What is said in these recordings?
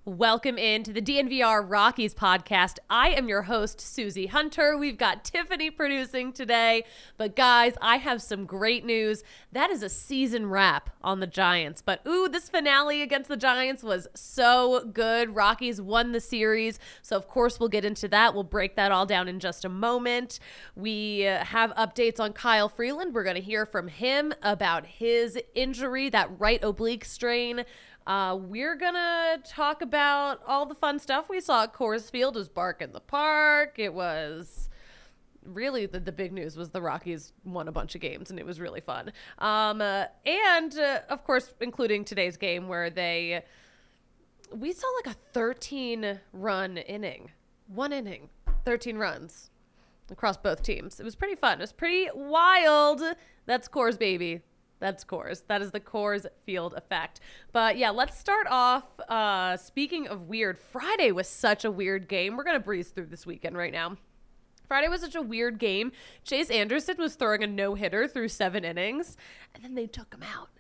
Welcome into the DNVR Rockies podcast. I am your host, Susie Hunter. We've got Tiffany producing today. But guys, I have some great news. That is a season wrap on the Giants. But this finale against the Giants was so good. Rockies won the series. So of course we'll get into that. We'll break that all down in just a moment. We have updates on Kyle Freeland. We're going to hear from him about his injury, that right oblique strain. We're gonna talk about all the fun stuff we saw at Coors Field. It was Bark in the Park. It was really the big news was the Rockies won a bunch of games, and it was really fun. And of course, including today's game where we saw like a 13-run inning. One inning, 13 runs across both teams. It was pretty fun. It was pretty wild. That's Coors, baby. That's Coors. That is the Coors Field effect. But yeah, let's start off. Speaking of weird, Friday was such a weird game. We're going to breeze through this weekend right now. Friday was such a weird game. Chase Anderson was throwing a no-hitter through 7 innings, and then they took him out.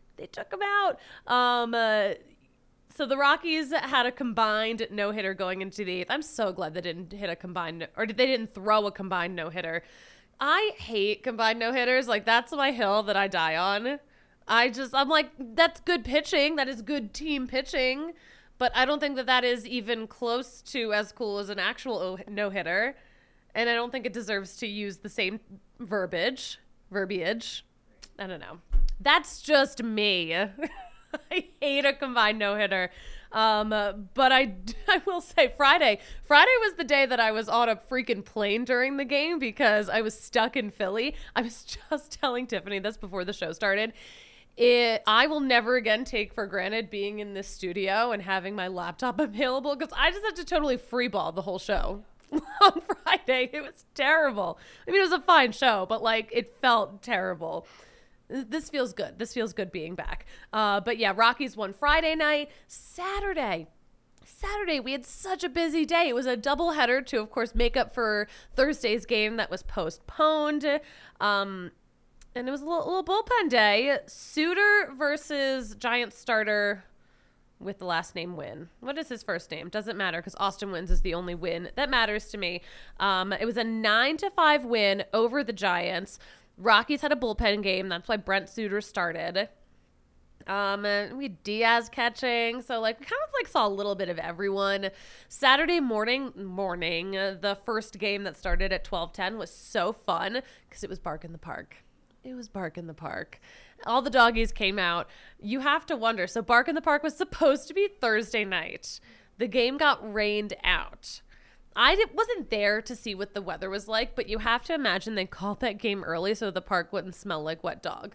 So the Rockies had a combined no-hitter going into the 8th. I'm so glad they didn't they didn't throw a combined no-hitter. I hate combined no-hitters. Like, that's my hill that I die on. I'm like, that's good pitching. That is good team pitching. But I don't think that is even close to as cool as an actual no-hitter. And I don't think it deserves to use the same verbiage. I don't know. That's just me. I hate a combined no-hitter. But I will say Friday was the day that I was on a freaking plane during the game because I was stuck in Philly. I was just telling Tiffany this before the show started. I will never again take for granted being in this studio and having my laptop available because I just had to totally freeball the whole show on Friday. It was terrible. I mean, it was a fine show, but like it felt terrible. This feels good. This feels good being back. But yeah, Rockies won Friday night. Saturday, we had such a busy day. It was a doubleheader to, of course, make up for Thursday's game that was postponed. And it was a little bullpen day. Suter versus Giants starter with the last name Wynn. What is his first name? Doesn't matter because Austin Wynns is the only win that matters to me. It was a 9-5 win over the Giants. Rockies had a bullpen game. That's why Brent Suter started. And we had Diaz catching. So like we kind of like saw a little bit of everyone. Saturday morning, the first game that started at 12:10 was so fun because it was Bark in the Park. All the doggies came out. You have to wonder. So Bark in the Park was supposed to be Thursday night. The game got rained out. I wasn't there to see what the weather was like, but you have to imagine they called that game early so the park wouldn't smell like wet dog.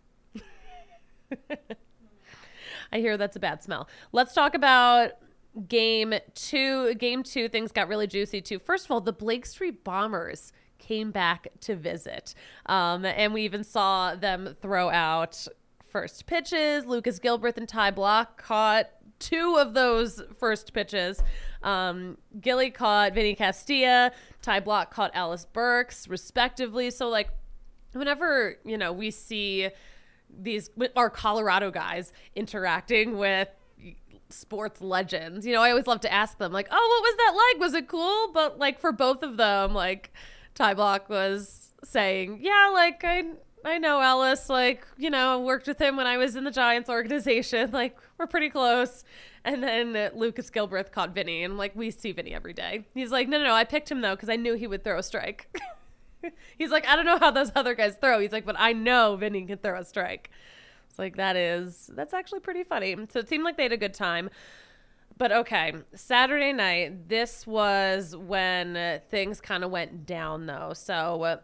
I hear that's a bad smell. Let's talk about game two. Game 2, things got really juicy too. First of all, the Blake Street Bombers came back to visit. And we even saw them throw out first pitches. Lucas Gilbreth and Ty Block caught 2 of those first pitches. Gilly caught Vinny Castilla. Ty Block caught Alice Burks, respectively. So, like, whenever, we see our Colorado guys interacting with sports legends, I always love to ask them, like, oh, what was that like? Was it cool? But, like, for both of them, like, Ty Block was saying, yeah, like, I know Ellis, like, worked with him when I was in the Giants organization. Like, we're pretty close. And then Lucas Gilbreth caught Vinny, and, like, we see Vinny every day. He's like, no, I picked him, though, because I knew he would throw a strike. He's like, I don't know how those other guys throw. He's like, but I know Vinny can throw a strike. It's like, that's actually pretty funny. So it seemed like they had a good time. But okay, Saturday night, this was when things kind of went down, though. So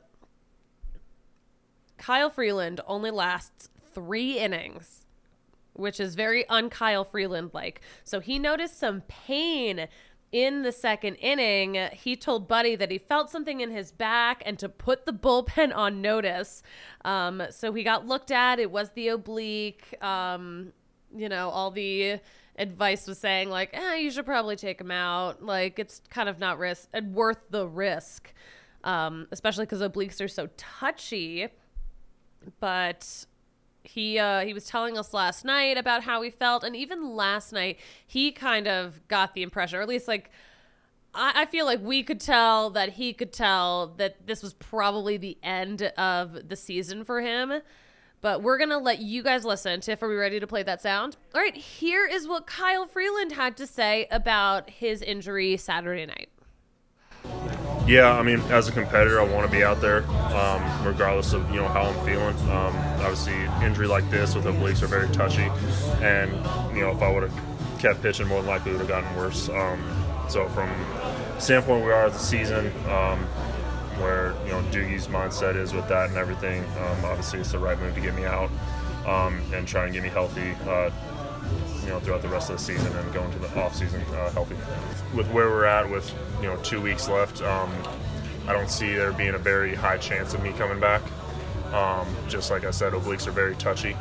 Kyle Freeland only lasts 3 innings, which is very un-Kyle Freeland-like. So he noticed some pain in the second inning. He told Buddy that he felt something in his back and to put the bullpen on notice. So he got looked at. It was the oblique. All the advice was saying, like, you should probably take him out. Like, it's kind of not worth the risk, especially because obliques are so touchy. But He was telling us last night about how he felt, and even last night he kind of got the impression, or at least like I feel like we could tell that he could tell that this was probably the end of the season for him. But we're going to let you guys listen. Tiff, are we ready to play that sound? All right, here is what Kyle Freeland had to say about his injury Saturday night. Yeah, I mean, as a competitor, I want to be out there, regardless of how I'm feeling. Obviously, injury like this with obliques are very touchy, and if I would have kept pitching, more than likely it would have gotten worse. So from the standpoint we are at the season, where Doogie's mindset is with that and everything, obviously it's the right move to get me out and try and get me healthy. Throughout the rest of the season and go into the off season healthy. With where we're at, with 2 weeks left, I don't see there being a very high chance of me coming back. Just like I said, obliques are very touchy,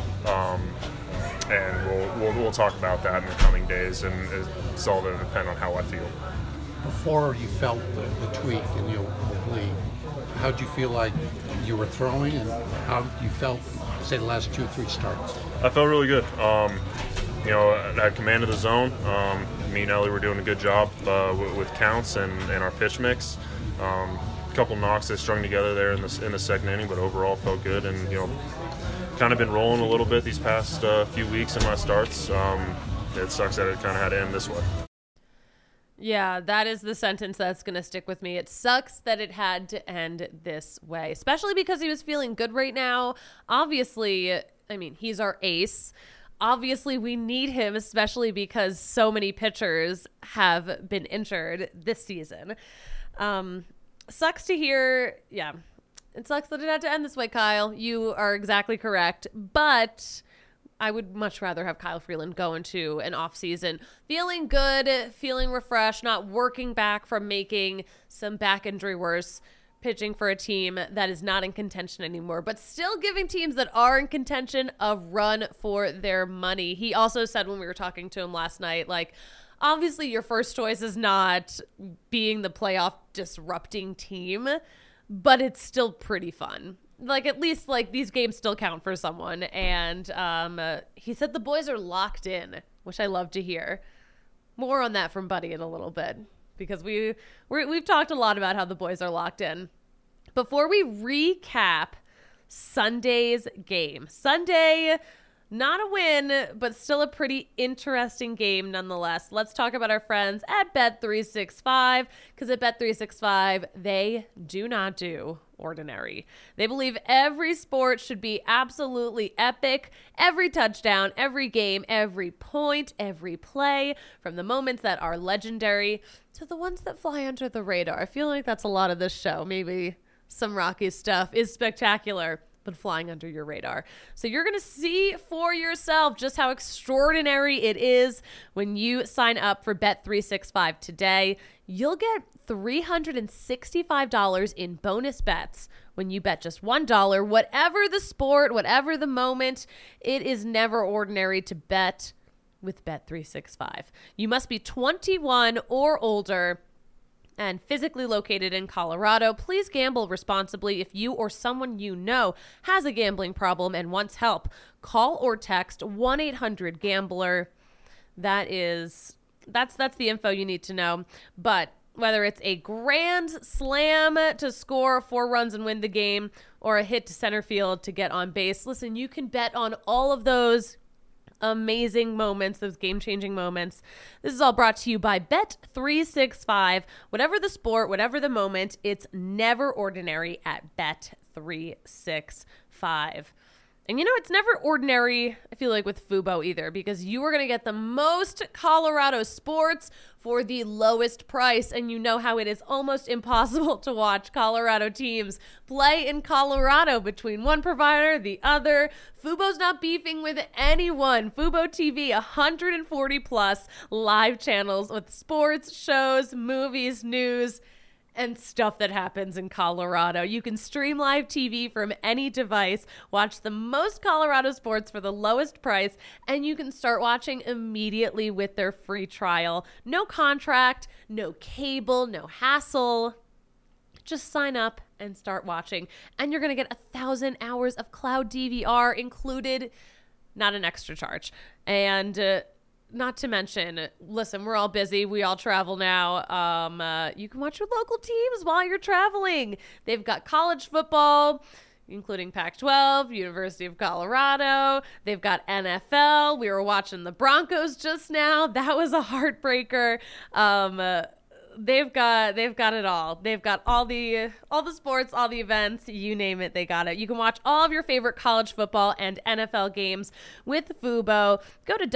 and we'll talk about that in the coming days, and it's all going to depend on how I feel. Before you felt the tweak in your oblique, how did you feel like you were throwing, and how you felt, say, the last 2 or 3 starts? I felt really good. I had command of the zone. Me and Ellie were doing a good job with counts and our pitch mix. A couple knocks that strung together there in the second inning, but overall felt good. And kind of been rolling a little bit these past few weeks in my starts. It sucks that it kind of had to end this way. Yeah, that is the sentence that's going to stick with me. It sucks that it had to end this way, especially because he was feeling good right now. Obviously, I mean, he's our ace. Obviously, we need him, especially because so many pitchers have been injured this season. Sucks to hear. Yeah, it sucks that it had to end this way, Kyle. You are exactly correct. But I would much rather have Kyle Freeland go into an off season feeling good, feeling refreshed, not working back from making some back injury worse, pitching for a team that is not in contention anymore, but still giving teams that are in contention a run for their money. He also said when we were talking to him last night, like, obviously your first choice is not being the playoff disrupting team, but it's still pretty fun. Like, at least, like, these games still count for someone. And he said the boys are locked in, which I love to hear. More on that from Buddy in a little bit, because we've talked a lot about how the boys are locked in. Before we recap Sunday's game. Sunday, not a win, but still a pretty interesting game nonetheless. Let's talk about our friends at Bet365, because at Bet365, they do not do ordinary. They believe every sport should be absolutely epic. Every touchdown, every game, every point, every play, from the moments that are legendary to the ones that fly under the radar. I feel like that's a lot of this show. Maybe some Rockies stuff is spectacular, but flying under your radar. So you're going to see for yourself just how extraordinary it is when you sign up for Bet365 today. You'll get $365 in bonus bets when you bet just $1. Whatever the sport, whatever the moment, it is never ordinary to bet with Bet365. You must be 21 or older and physically located in Colorado. Please gamble responsibly. If you or someone you know has a gambling problem and wants help, call or text 1-800-GAMBLER. That's the info you need to know. But whether it's a grand slam to score 4 runs and win the game, or a hit to center field to get on base, listen, you can bet on all of those amazing moments, those game-changing moments. This is all brought to you by Bet365. Whatever the sport, whatever the moment, it's never ordinary at Bet365. And it's never ordinary, I feel like, with Fubo either, because you are going to get the most Colorado sports for the lowest price. And you know how it is almost impossible to watch Colorado teams play in Colorado between one provider, the other. Fubo's not beefing with anyone. Fubo TV, 140 plus live channels with sports, shows, movies, news, and stuff that happens in Colorado. You can stream live TV from any device, watch the most Colorado sports for the lowest price, and you can start watching immediately with their free trial. No contract, no cable, no hassle. Just sign up and start watching. And you're going to get 1,000 hours of cloud DVR included, not an extra charge. And not to mention, listen, we're all busy. We all travel now. You can watch your local teams while you're traveling. They've got college football, including Pac-12, University of Colorado. They've got NFL. We were watching the Broncos just now. That was a heartbreaker. They've got it all. They've got all the sports, all the events, you name it, they got it. You can watch all of your favorite college football and NFL games with Fubo. Go to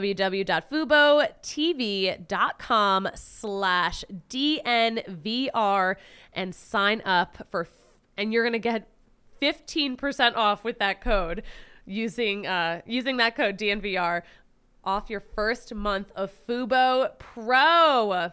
www.fubo.tv.com/DNVR and sign up and you're going to get 15% off with that code using that code DNVR off your first month of Fubo Pro.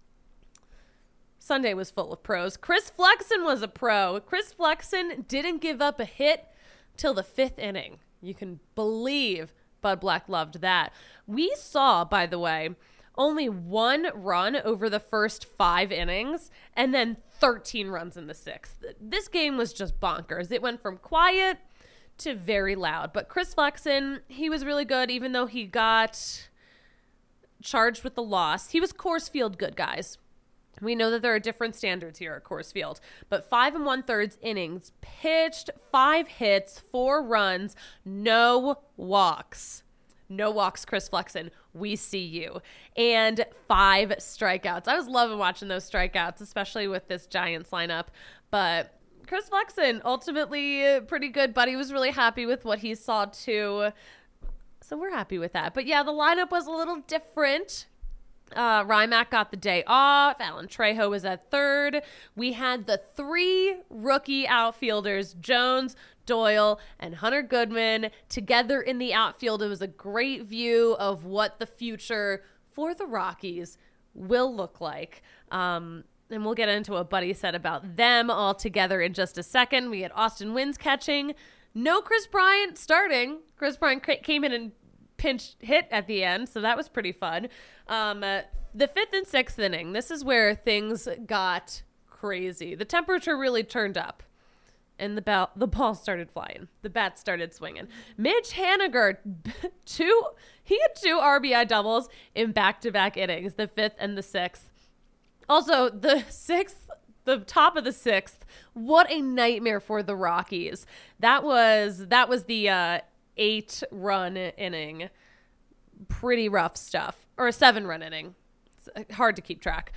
Sunday was full of pros. Chris Flexen was a pro. Chris Flexen didn't give up a hit till the 5th inning. You can believe Bud Black loved that. We saw, by the way, only 1 run over the first 5 innings and then 13 runs in the 6th. This game was just bonkers. It went from quiet to very loud. But Chris Flexen, he was really good, even though he got charged with the loss. He was Coors Field good, guys. We know that there are different standards here at Coors Field, but 5 1/3 innings, pitched 5 hits, 4 runs, no walks. No walks, Chris Flexen. We see you. And 5 strikeouts. I was loving watching those strikeouts, especially with this Giants lineup. But Chris Flexen, ultimately pretty good. Buddy was really happy with what he saw too. So we're happy with that. But yeah, the lineup was a little different. Rymack got the day off. Alan Trejo was at third. We had the 3 rookie outfielders, Jones, Doyle, and Hunter Goodman, together in the outfield. It was a great view of what the future for the Rockies will look like. And we'll get into what Buddy said about them all together in just a second. We had Austin Wynns catching. No Chris Bryant starting. Chris Bryant came in and pinch hit at the end, so that was pretty fun. The 5th and 6th inning, this is where things got crazy. The temperature really turned up, and the ball started flying. The bat started swinging. Mitch Haniger, he had 2 RBI doubles in back-to-back innings, the 5th and the 6th. Also, the 6th, the top of the 6th, what a nightmare for the Rockies. That was the 8-run inning. Pretty rough stuff. Or a 7-run inning. It's hard to keep track.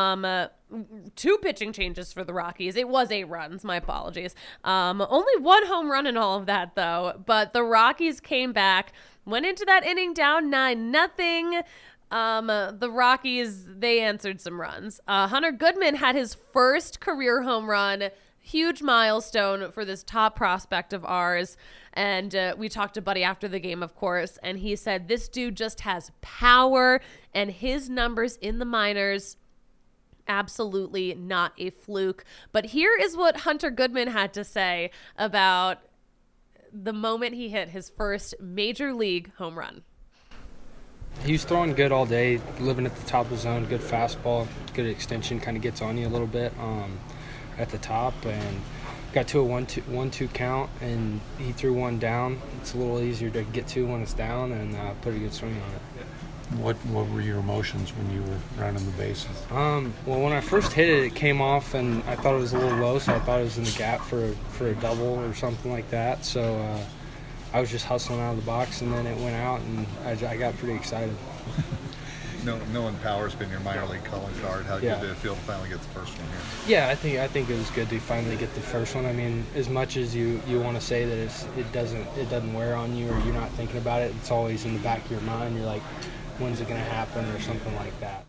2 pitching changes for the Rockies. It was 8 runs. My apologies. Only 1 home run in all of that, though. But the Rockies came back, went into that inning down 9-0. The Rockies, they answered some runs. Hunter Goodman had his first career home run. Huge milestone for this top prospect of ours. And we talked to Buddy after the game, of course, and he said this dude just has power, and his numbers in the minors, absolutely not a fluke. But here is what Hunter Goodman had to say about the moment he hit his first major league home run. He was throwing good all day, living at the top of the zone, good fastball, good extension, kind of gets on you a little bit at the top, and got to a 1-2 count, and he threw one down. It's a little easier to get to when it's down, and put a good swing on it. What were your emotions when you were rounding the bases? Well, when I first hit it, it came off, and I thought it was a little low, so I thought it was in the gap for a double or something like that. So I was just hustling out of the box, and then it went out, and I got pretty excited. Knowing Power's been your minor league calling card, how good did it feel to finally get the first one here? Yeah, I think it was good to finally get the first one. I mean, as much as you want to say that it doesn't wear on you, or you're not thinking about it, it's always in the back of your mind. You're like, when's it going to happen, or something like that.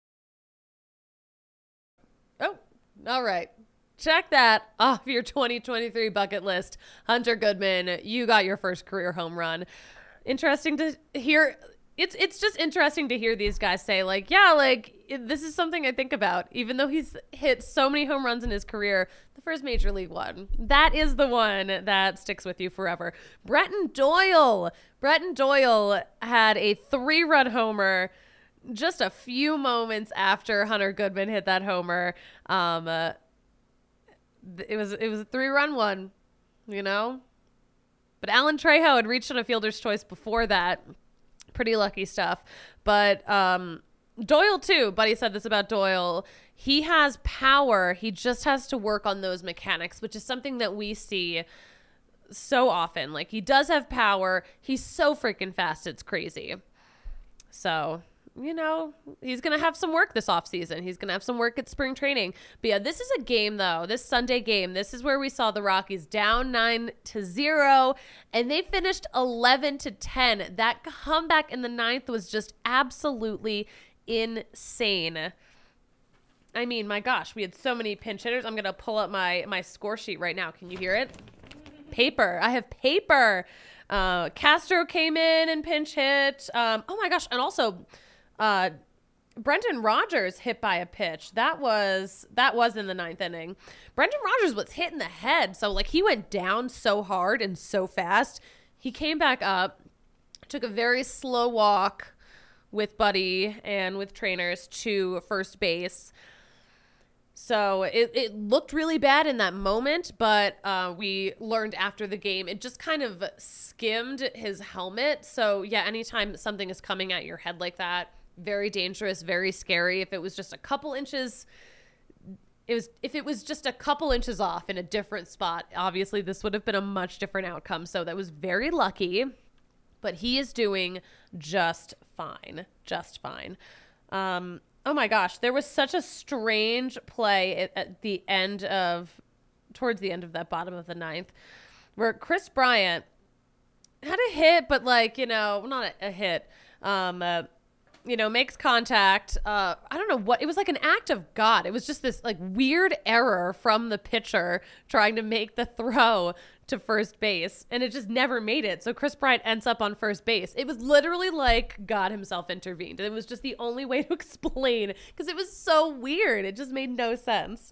Oh, all right. Check that off your 2023 bucket list. Hunter Goodman, you got your first career home run. Interesting to hear. It's just interesting to hear these guys say, like, yeah, like, this is something I think about. Even though he's hit so many home runs in his career, the first major league one, that is the one that sticks with you forever. Bretton Doyle had a 3-run homer just a few moments after Hunter Goodman hit that homer. it was a 3-run one, you know? But Alan Trejo had reached on a fielder's choice before that. Pretty lucky stuff. But Doyle, too. Buddy said this about Doyle. He has power. He just has to work on those mechanics, which is something that we see so often. Like, he does have power. He's so freaking fast. It's crazy. So, you know, he's going to have some work this offseason. He's going to have some work at spring training. But yeah, this is a game, though. This Sunday game, this is where we saw the Rockies down 9-0, and they finished 11-10. That comeback in the 9th was just absolutely insane. I mean, my gosh, we had so many pinch hitters. I'm going to pull up my score sheet right now. Can you hear it? Paper. I have paper. Castro came in and pinch hit. Oh my gosh. And also, Brendan Rodgers hit by a pitch. That was in the 9th inning. Brendan Rodgers was hit in the head. So like he went down so hard and so fast. He came back up, took a very slow walk with Buddy and with trainers to first base. So it looked really bad in that moment, but we learned after the game, it just kind of skimmed his helmet. So yeah, anytime something is coming at your head like that, very dangerous, very scary. If it was just a couple inches, if it was just a couple inches off in a different spot, obviously this would have been a much different outcome. So that was very lucky, but he is doing just fine, just fine. Oh my gosh, there was such a strange play towards the end of that bottom of the 9th, where Chris Bryant had a hit, but like, you know, not a hit, you know, makes contact. I don't know what, it was like an act of God. It was just this like weird error from the pitcher trying to make the throw to first base, and it just never made it. So Chris Bryant ends up on first base. It was literally like God himself intervened. It was just the only way to explain, because it was so weird. It just made no sense.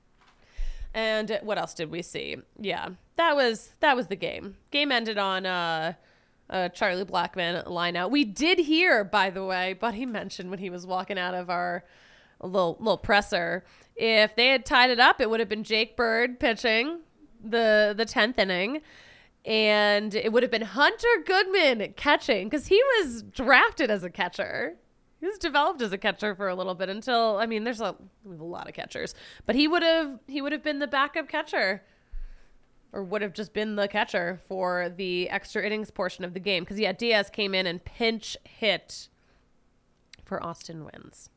And what else did we see? Yeah, that was the game. Game ended on Charlie Blackmon line out. We did hear, by the way, Buddy mentioned when he was walking out of our little presser, if they had tied it up, it would have been Jake Bird pitching the 10th inning, and it would have been Hunter Goodman catching, because he was drafted as a catcher. He was developed as a catcher for a little bit until, I mean, we have a lot of catchers, but he would have been the backup catcher, or would have just been the catcher for the extra innings portion of the game, because yeah, Diaz came in and pinch hit for Austin Wynns.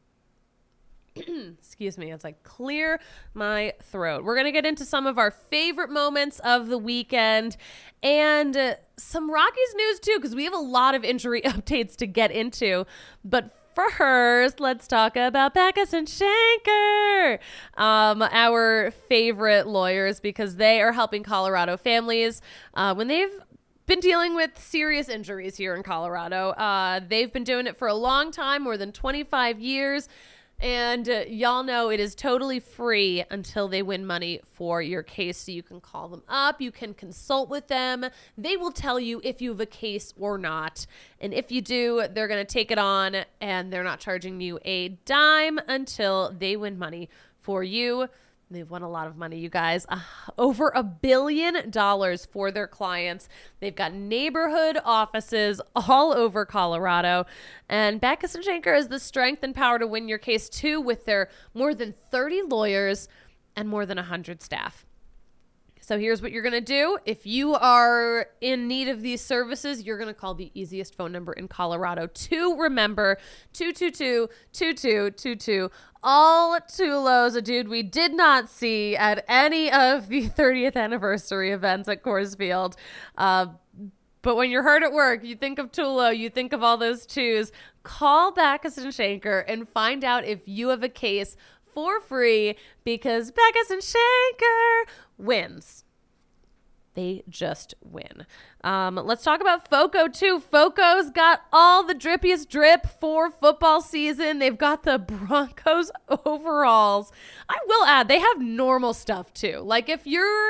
Excuse me, as I clear my throat. We're going to get into some of our favorite moments of the weekend and some Rockies news too, because we have a lot of injury updates to get into. But first, let's talk about Backus and Shanker, our favorite lawyers, because they are helping Colorado families when they've been dealing with serious injuries here in Colorado. They've been doing it for a long time, more than 25 years. And y'all know it is totally free until they win money for your case. So you can call them up. You can consult with them. They will tell you if you have a case or not. And if you do, they're going to take it on, and they're not charging you a dime until they win money for you. They've won a lot of money, you guys. Over $1 billion for their clients. They've got neighborhood offices all over Colorado. And Backus and Shanker has the strength and power to win your case, too, with their more than 30 lawyers and more than 100 staff. So here's what you're going to do. If you are in need of these services, you're going to call the easiest phone number in Colorado to remember, 222-2222. All Tulos, a dude we did not see at any of the 30th anniversary events at Coors Field. But when you're hard at work, you think of Tulo, you think of all those twos. Call Backus and Shanker and find out if you have a case for free, because Backus and Shanker wins. They just win. Let's talk about FOCO too. FOCO's got all the drippiest drip for football season. They've got the Broncos overalls. I will add, they have normal stuff too. Like if you're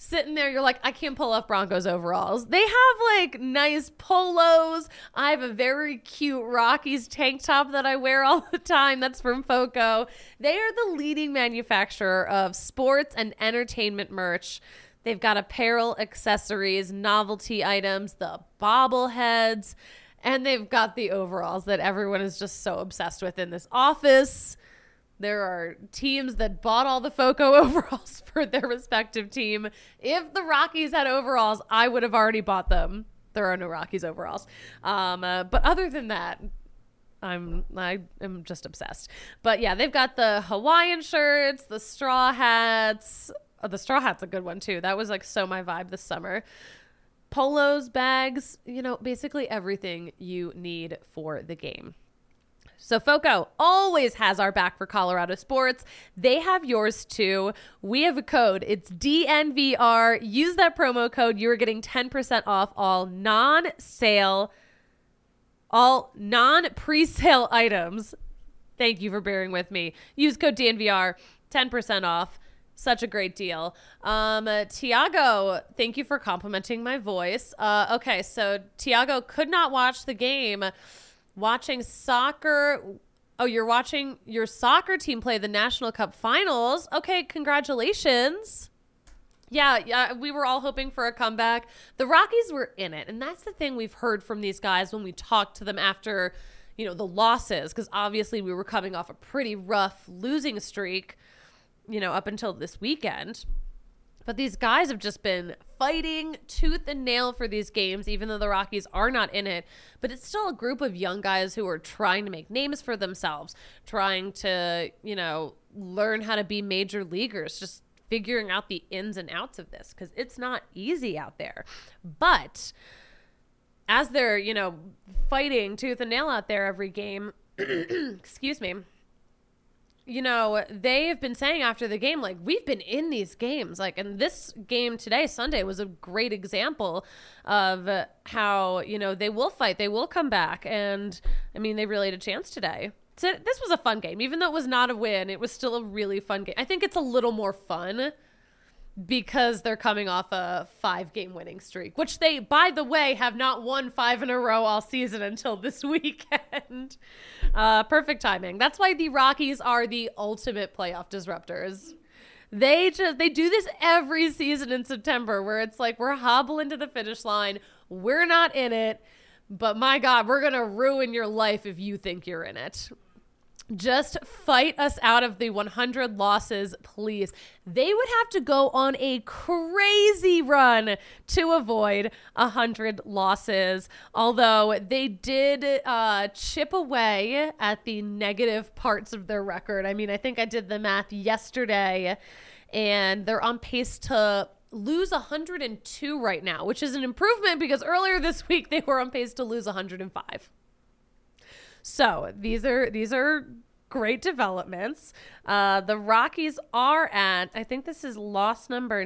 sitting there, you're like, I can't pull off Broncos overalls. They have like nice polos. I have a very cute Rockies tank top that I wear all the time. That's from Foco. They are the leading manufacturer of sports and entertainment merch. They've got apparel, accessories, novelty items, the bobbleheads, and they've got the overalls that everyone is just so obsessed with in this office. There are teams that bought all the Foco overalls for their respective team. If the Rockies had overalls, I would have already bought them. There are no Rockies overalls. But other than that, I am just obsessed. But yeah, they've got the Hawaiian shirts, the straw hats. Oh, the straw hat's a good one too. That was like so my vibe this summer. Polos, bags, basically everything you need for the game. So Foco always has our back for Colorado sports. They have yours too. We have a code. It's DNVR. Use that promo code. You're getting 10% off all non-presale items. Thank you for bearing with me. Use code DNVR, 10% off. Such a great deal. Tiago, thank you for complimenting my voice. Okay, so Tiago could not watch the game. Watching soccer. Oh, you're watching your soccer team play the National Cup finals. Okay, congratulations. Yeah, we were all hoping for a comeback. The Rockies were in it, and that's the thing we've heard from these guys when we talked to them after, the losses, because obviously we were coming off a pretty rough losing streak, up until this weekend. But these guys have just been fighting tooth and nail for these games, even though the Rockies are not in it. But it's still a group of young guys who are trying to make names for themselves, trying to, learn how to be major leaguers, just figuring out the ins and outs of this, because it's not easy out there. But as they're, fighting tooth and nail out there every game, excuse me, they have been saying after the game, like, we've been in these games. Like, and this game today, Sunday, was a great example of how, they will fight. They will come back. And, they really had a chance today. So this was a fun game. Even though it was not a win, it was still a really fun game. I think it's a little more fun because they're coming off a 5-game winning streak, which they, by the way, have not won 5 in a row all season until this weekend. Perfect timing. That's why the Rockies are the ultimate playoff disruptors. They do this every season in September, where it's like, we're hobbling to the finish line. We're not in it, but my God, we're going to ruin your life if you think you're in it. Just fight us out of the 100 losses, please. They would have to go on a crazy run to avoid 100 losses. Although they did chip away at the negative parts of their record. I think I did the math yesterday, and they're on pace to lose 102 right now, which is an improvement because earlier this week they were on pace to lose 105. So these are great developments. The Rockies are at, I think this is loss number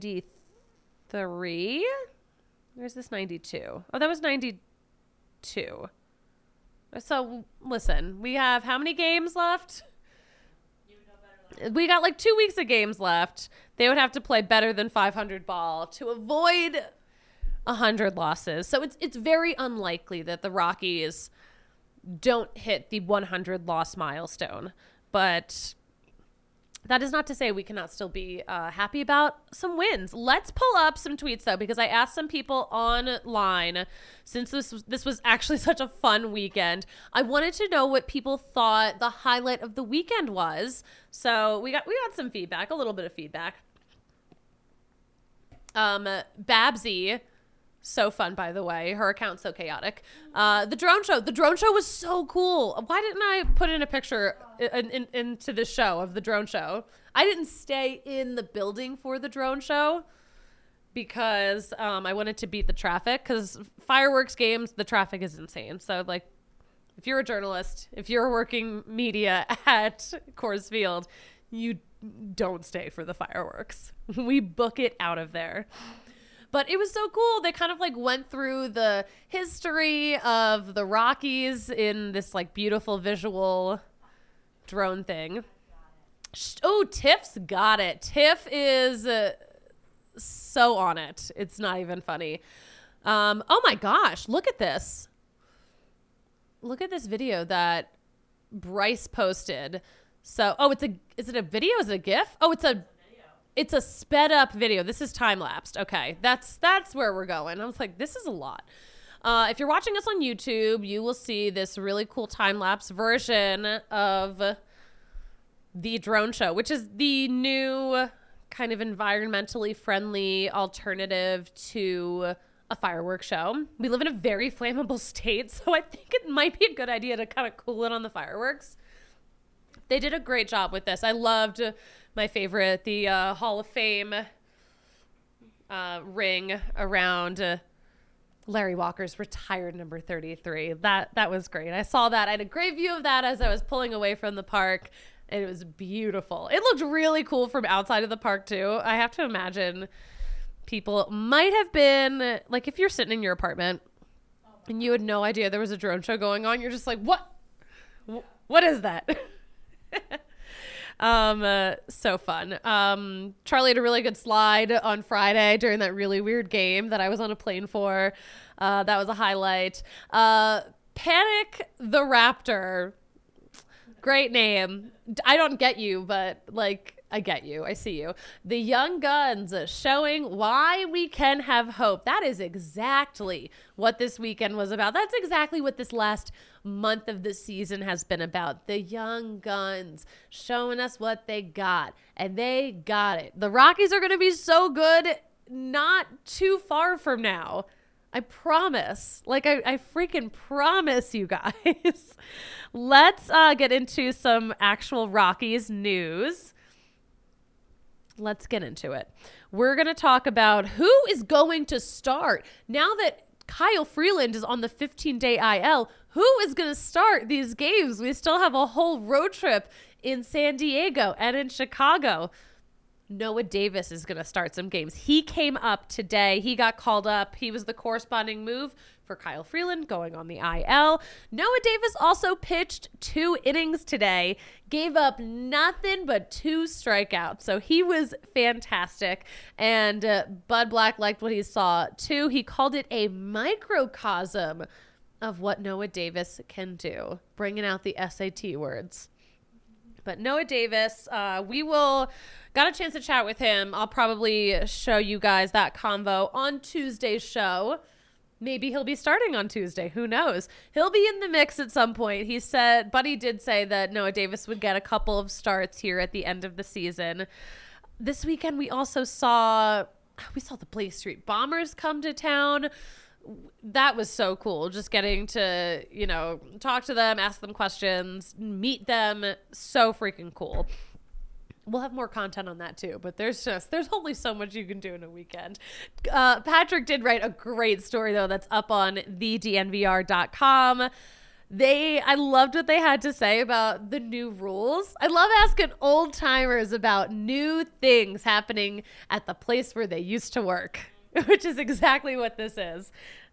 93. Where's this 92? Oh, that was 92. So listen, we have how many games left? We got like 2 weeks of games left. They would have to play better than 500 ball to avoid 100 losses. So it's very unlikely that the Rockies don't hit the 100 loss milestone, but that is not to say we cannot still be happy about some wins. Let's pull up some tweets though, because I asked some people online, since this was actually such a fun weekend. I wanted to know what people thought the highlight of the weekend was. So we got some feedback, a little bit of feedback. Babsy, so fun, by the way. Her account's so chaotic. The drone show. The drone show was so cool. Why didn't I put in a picture into the show of the drone show? I didn't stay in the building for the drone show because I wanted to beat the traffic, because fireworks games, the traffic is insane. So, like, if you're a journalist, if you're working media at Coors Field, you don't stay for the fireworks. We book it out of there. But it was so cool. They kind of like went through the history of the Rockies in this like beautiful visual drone thing. Oh, Tiff's got it. Tiff is so on it. It's not even funny. Oh my gosh, look at this. Look at this video that Bryce posted. So, is it a video? Is it a GIF? Oh, it's a sped up video. This is time lapsed. Okay. That's where we're going. I was like, this is a lot. If you're watching us on YouTube, you will see this really cool time lapse version of the drone show, which is the new kind of environmentally friendly alternative to a fireworks show. We live in a very flammable state, so I think it might be a good idea to kind of cool it on the fireworks. They did a great job with this. I loved my favorite, the Hall of Fame ring around Larry Walker's retired number 33. That was great. I saw that. I had a great view of that as I was pulling away from the park, and it was beautiful. It looked really cool from outside of the park, too. I have to imagine people might have been, like, if you're sitting in your apartment and you had no idea there was a drone show going on, you're just like, what? What is that? So fun. Charlie had a really good slide on Friday during that really weird game that I was on a plane for. That was a highlight. Panic the Raptor. Great name. I don't get you, but like, I get you. I see you. The Young Guns showing why we can have hope. That is exactly what this weekend was about. That's exactly what this last month of the season has been about. The Young Guns showing us what they got, and they got it. The Rockies are going to be so good not too far from now. I promise. Like, I freaking promise you guys. Let's get into some actual Rockies news. Let's get into it. We're going to talk about who is going to start. Now that Kyle Freeland is on the 15-day IL, who is going to start these games? We still have a whole road trip in San Diego and in Chicago. Noah Davis is going to start some games. He came up today. He got called up. He was the corresponding move for Kyle Freeland going on the IL. Noah Davis also pitched 2 innings today, gave up nothing but 2 strikeouts. So he was fantastic. And Bud Black liked what he saw too. He called it a microcosm of what Noah Davis can do, bringing out the SAT words. But Noah Davis, got a chance to chat with him. I'll probably show you guys that convo on Tuesday's show. Maybe he'll be starting on Tuesday. Who knows? He'll be in the mix at some point. Buddy did say that Noah Davis would get a couple of starts here at the end of the season. This weekend, we also saw the Blaze Street Bombers come to town. That was so cool. Just getting to, talk to them, ask them questions, meet them. So freaking cool. We'll have more content on that too, but there's only so much you can do in a weekend. Patrick did write a great story though that's up on thednvr.com. I loved what they had to say about the new rules. I love asking old timers about new things happening at the place where they used to work, which is exactly what this is.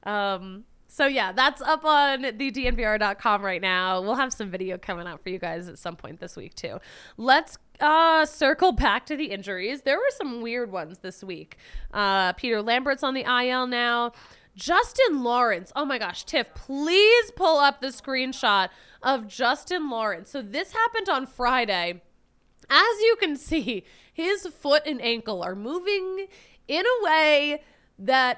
So yeah, that's up on thednvr.com right now. We'll have some video coming out for you guys at some point this week too. Let's circle back to the injuries. There were some weird ones this week. Peter Lambert's on the IL now. Justin Lawrence. Oh my gosh, Tiff, please pull up the screenshot of Justin Lawrence. So this happened on Friday. As you can see, his foot and ankle are moving in a way that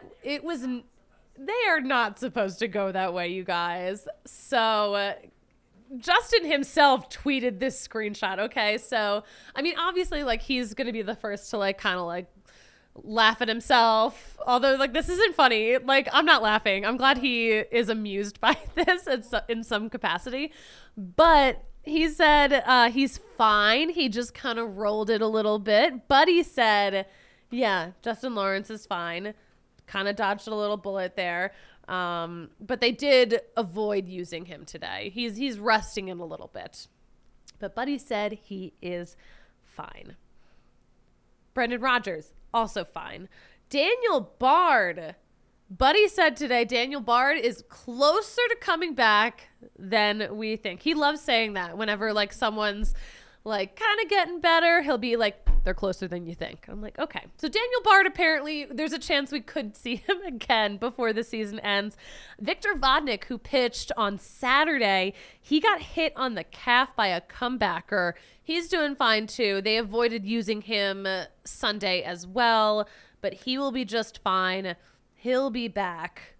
they are not supposed to go that way, you guys. So Justin himself tweeted this screenshot. Okay. So, I mean, obviously like he's going to be the first to like, kind of like laugh at himself. Although like, this isn't funny. Like, I'm not laughing. I'm glad he is amused by this in some capacity, but he said, he's fine. He just kind of rolled it a little bit, but he said, yeah, Justin Lawrence is fine. Kind of dodged a little bullet there. But they did avoid using him today. He's resting in a little bit. But Buddy said he is fine. Brendan Rodgers, also fine. Daniel Bard. Buddy said today Daniel Bard is closer to coming back than we think. He loves saying that whenever like someone's like kind of getting better. He'll be like, they're closer than you think. I'm like, okay. So Daniel Bard, apparently there's a chance we could see him again before the season ends. Victor Vodnik, who pitched on Saturday, he got hit on the calf by a comebacker. He's doing fine too. They avoided using him Sunday as well, but he will be just fine. He'll be back.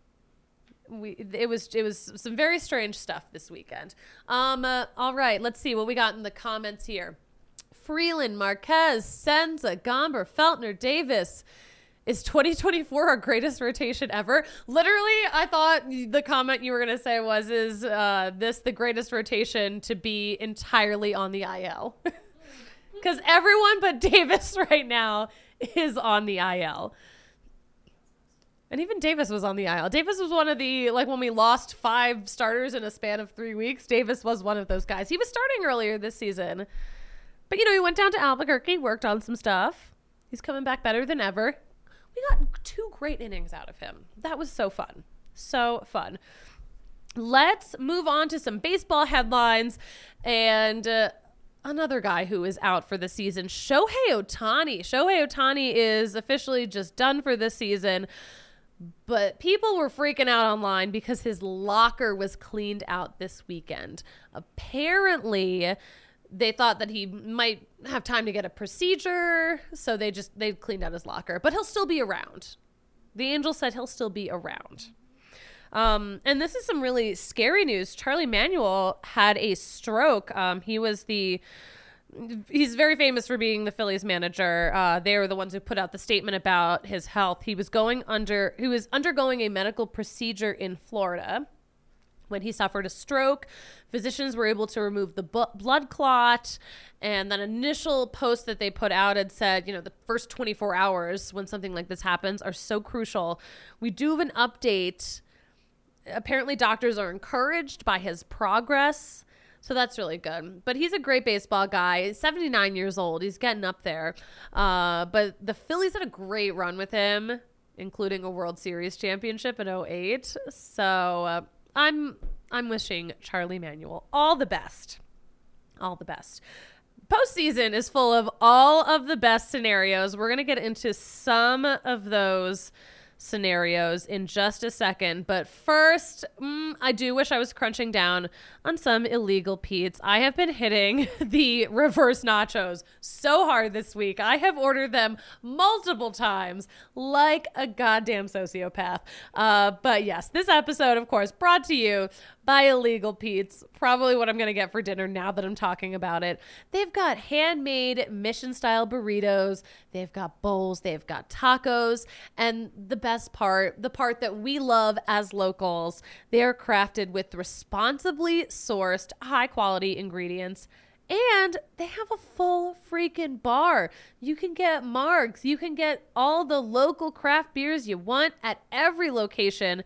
It was some very strange stuff this weekend. All right, let's see what we got in the comments here. Freeland, Marquez, Senza, Gomber, Feltner, Davis. Is 2024 our greatest rotation ever? Literally, I thought the comment you were going to say was, is this the greatest rotation to be entirely on the IL? Because everyone but Davis right now is on the IL. And even Davis was on the IL. Davis was one of the, like when we lost 5 starters in a span of 3 weeks, Davis was one of those guys. He was starting earlier this season. But, he went down to Albuquerque, worked on some stuff. He's coming back better than ever. We got 2 great innings out of him. That was so fun. So fun. Let's move on to some baseball headlines. And another guy who is out for the season, Shohei Ohtani. Shohei Ohtani is officially just done for this season. But people were freaking out online because his locker was cleaned out this weekend. Apparently, they thought that he might have time to get a procedure, so they cleaned out his locker. But he'll still be around. The Angels said he'll still be around. And this is some really scary news. Charlie Manuel had a stroke. He's very famous for being the Phillies manager. They were the ones who put out the statement about his health. He was undergoing a medical procedure in Florida when he suffered a stroke. Physicians were able to remove the blood clot, and that initial post that they put out had said, the first 24 hours when something like this happens are so crucial. We do have an update. Apparently doctors are encouraged by his progress, so that's really good. But he's a great baseball guy. He's 79 years old. He's getting up there. But the Phillies had a great run with him, including a World Series championship in 2008. So I'm wishing Charlie Manuel all the best. All the best. Postseason is full of all of the best scenarios. We're going to get into some of those scenarios in just a second. But first, I do wish I was crunching down on some illegal Pete's. I have been hitting the reverse nachos so hard this week. I have ordered them multiple times like a goddamn sociopath. But yes, this episode, of course, brought to you by Illegal Pete's. Probably what I'm going to get for dinner now that I'm talking about it. They've got handmade mission-style burritos. They've got bowls. They've got tacos. And the best part, the part that we love as locals, they are crafted with responsibly sourced, high-quality ingredients. And they have a full freaking bar. You can get margs. You can get all the local craft beers you want at every location.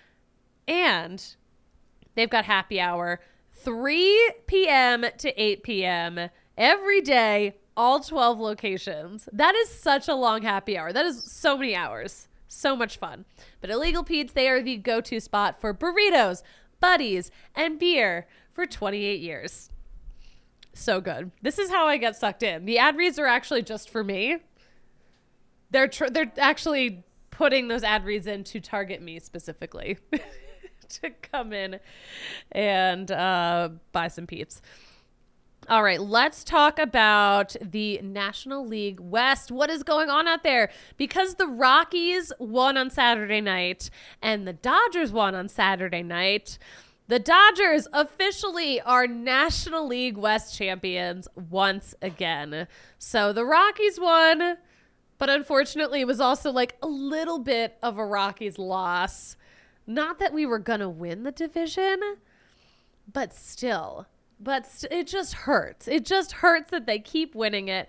And they've got happy hour 3 p.m. to 8 p.m. every day, all 12 locations. That is such a long happy hour. That is so many hours. So much fun. But Illegal Pete's, they are the go-to spot for burritos, buddies, and beer for 28 years. So good. This is how I get sucked in. The ad reads are actually just for me. They're actually putting those ad reads in to target me specifically. To come in and buy some Peeps. All right, let's talk about the National League West. What is going on out there? Because the Rockies won on Saturday night and the Dodgers won on Saturday night, the Dodgers officially are National League West champions once again. So the Rockies won, but unfortunately it was also like a little bit of a Rockies loss. Not that we were going to win the division, but still. It just hurts. It just hurts that they keep winning it.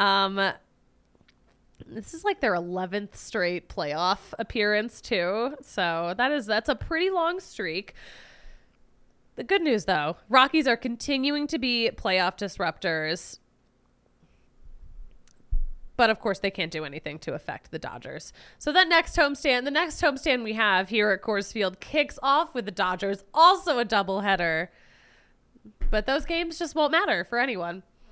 This is like their 11th straight playoff appearance, too. So that's a pretty long streak. The good news, though, Rockies are continuing to be playoff disruptors. But, of course, they can't do anything to affect the Dodgers. So the next homestand we have here at Coors Field kicks off with the Dodgers, also a doubleheader. But those games just won't matter for anyone.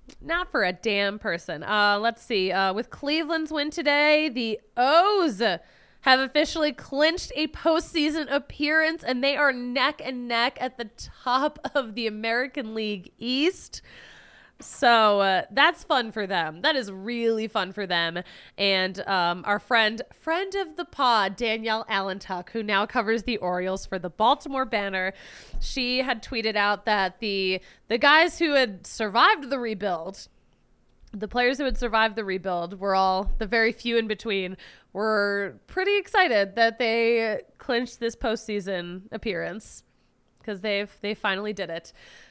Not for a damn person. Let's see. With Cleveland's win today, the O's have officially clinched a postseason appearance, and they are neck and neck at the top of the American League East. So that's fun for them. That is really fun for them. And our friend of the pod, Danielle Allentuck, who now covers the Orioles for the Baltimore Banner, she had tweeted out that the guys who had survived the rebuild, the players who had survived the rebuild, were all, the very few in between, were pretty excited that they clinched this postseason appearance because they finally did it.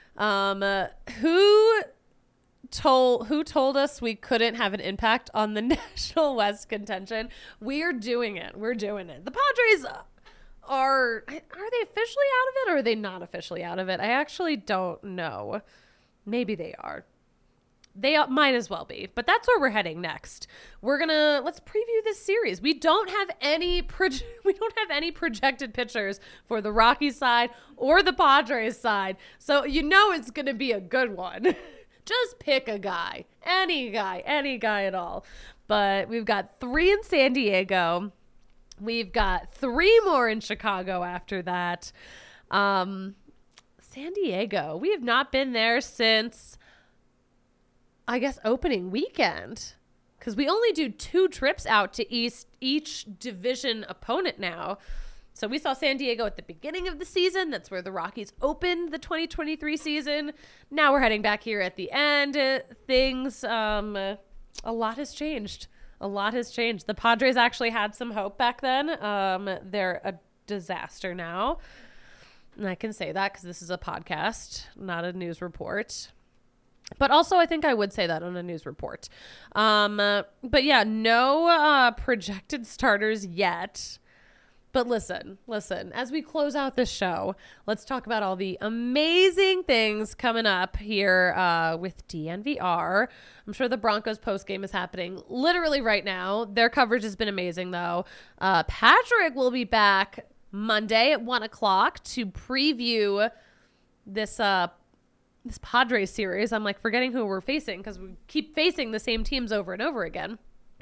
Who told us we couldn't have an impact on the National West contention? We're doing it. We're doing it. The Padres are they officially out of it, or are they not officially out of it? I actually don't know. Maybe they are. They might as well be, but that's where we're heading next. Let's preview this series. We don't have any projected pitchers for the Rockies side or the Padres side, so it's going to be a good one. Just pick a guy, any guy at all. But we've got 3 in San Diego. We've got 3 more in Chicago after that. San Diego, we have not been there since, I guess, opening weekend, because we only do 2 trips out to each division opponent now. So we saw San Diego at the beginning of the season. That's where the Rockies opened the 2023 season. Now we're heading back here at the end. Things, a lot has changed. A lot has changed. The Padres actually had some hope back then. They're a disaster now. And I can say that because this is a podcast, not a news report. But also, I think I would say that on a news report. But yeah, no projected starters yet. But listen, as we close out this show, let's talk about all the amazing things coming up here with DNVR. I'm sure the Broncos postgame is happening literally right now. Their coverage has been amazing, though. Patrick will be back Monday at 1 o'clock to preview this Padres series. I'm like forgetting who we're facing because we keep facing the same teams over and over again.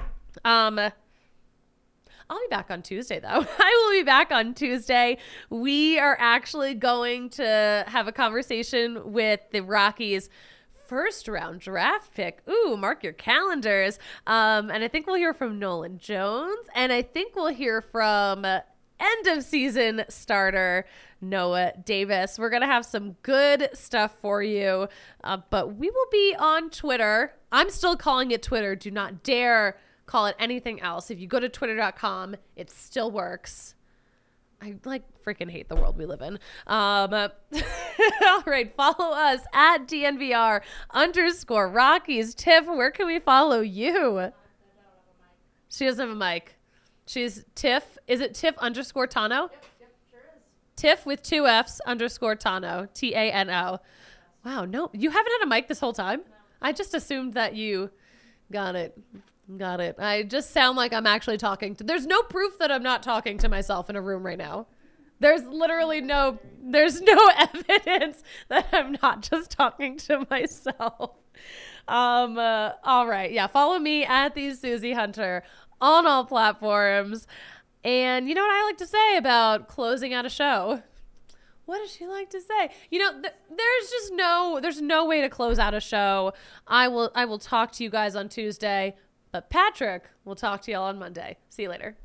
I'll be back on Tuesday, though. I will be back on Tuesday. We are actually going to have a conversation with the Rockies' first-round draft pick. Ooh, mark your calendars. And I think we'll hear from Nolan Jones, and I think we'll hear from end-of-season starter Noah Davis. We're going to have some good stuff for you, but we will be on Twitter. I'm still calling it Twitter. Do not dare call it anything else. If you go to twitter.com, it still works. I freaking hate the world we live in. All right, follow us at DNVR_Rockies. Tiff, where can we follow you? She doesn't have a mic. She's Tiff. Is it Tiff_Tano? Yep, sure is. Tiff with 2 F's _Tano. TANO. Wow, no, you haven't had a mic this whole time? No. I just assumed that you got it. Got it. I just sound like I'm actually talking to... There's no proof that I'm not talking to myself in a room right now. There's literally no evidence that I'm not just talking to myself. All right. Yeah. Follow me at the Susie Hunter on all platforms. And you know what I like to say about closing out a show? What does she like to say? There's no way to close out a show. I will talk to you guys on Tuesday. But Patrick will talk to y'all on Monday. See you later.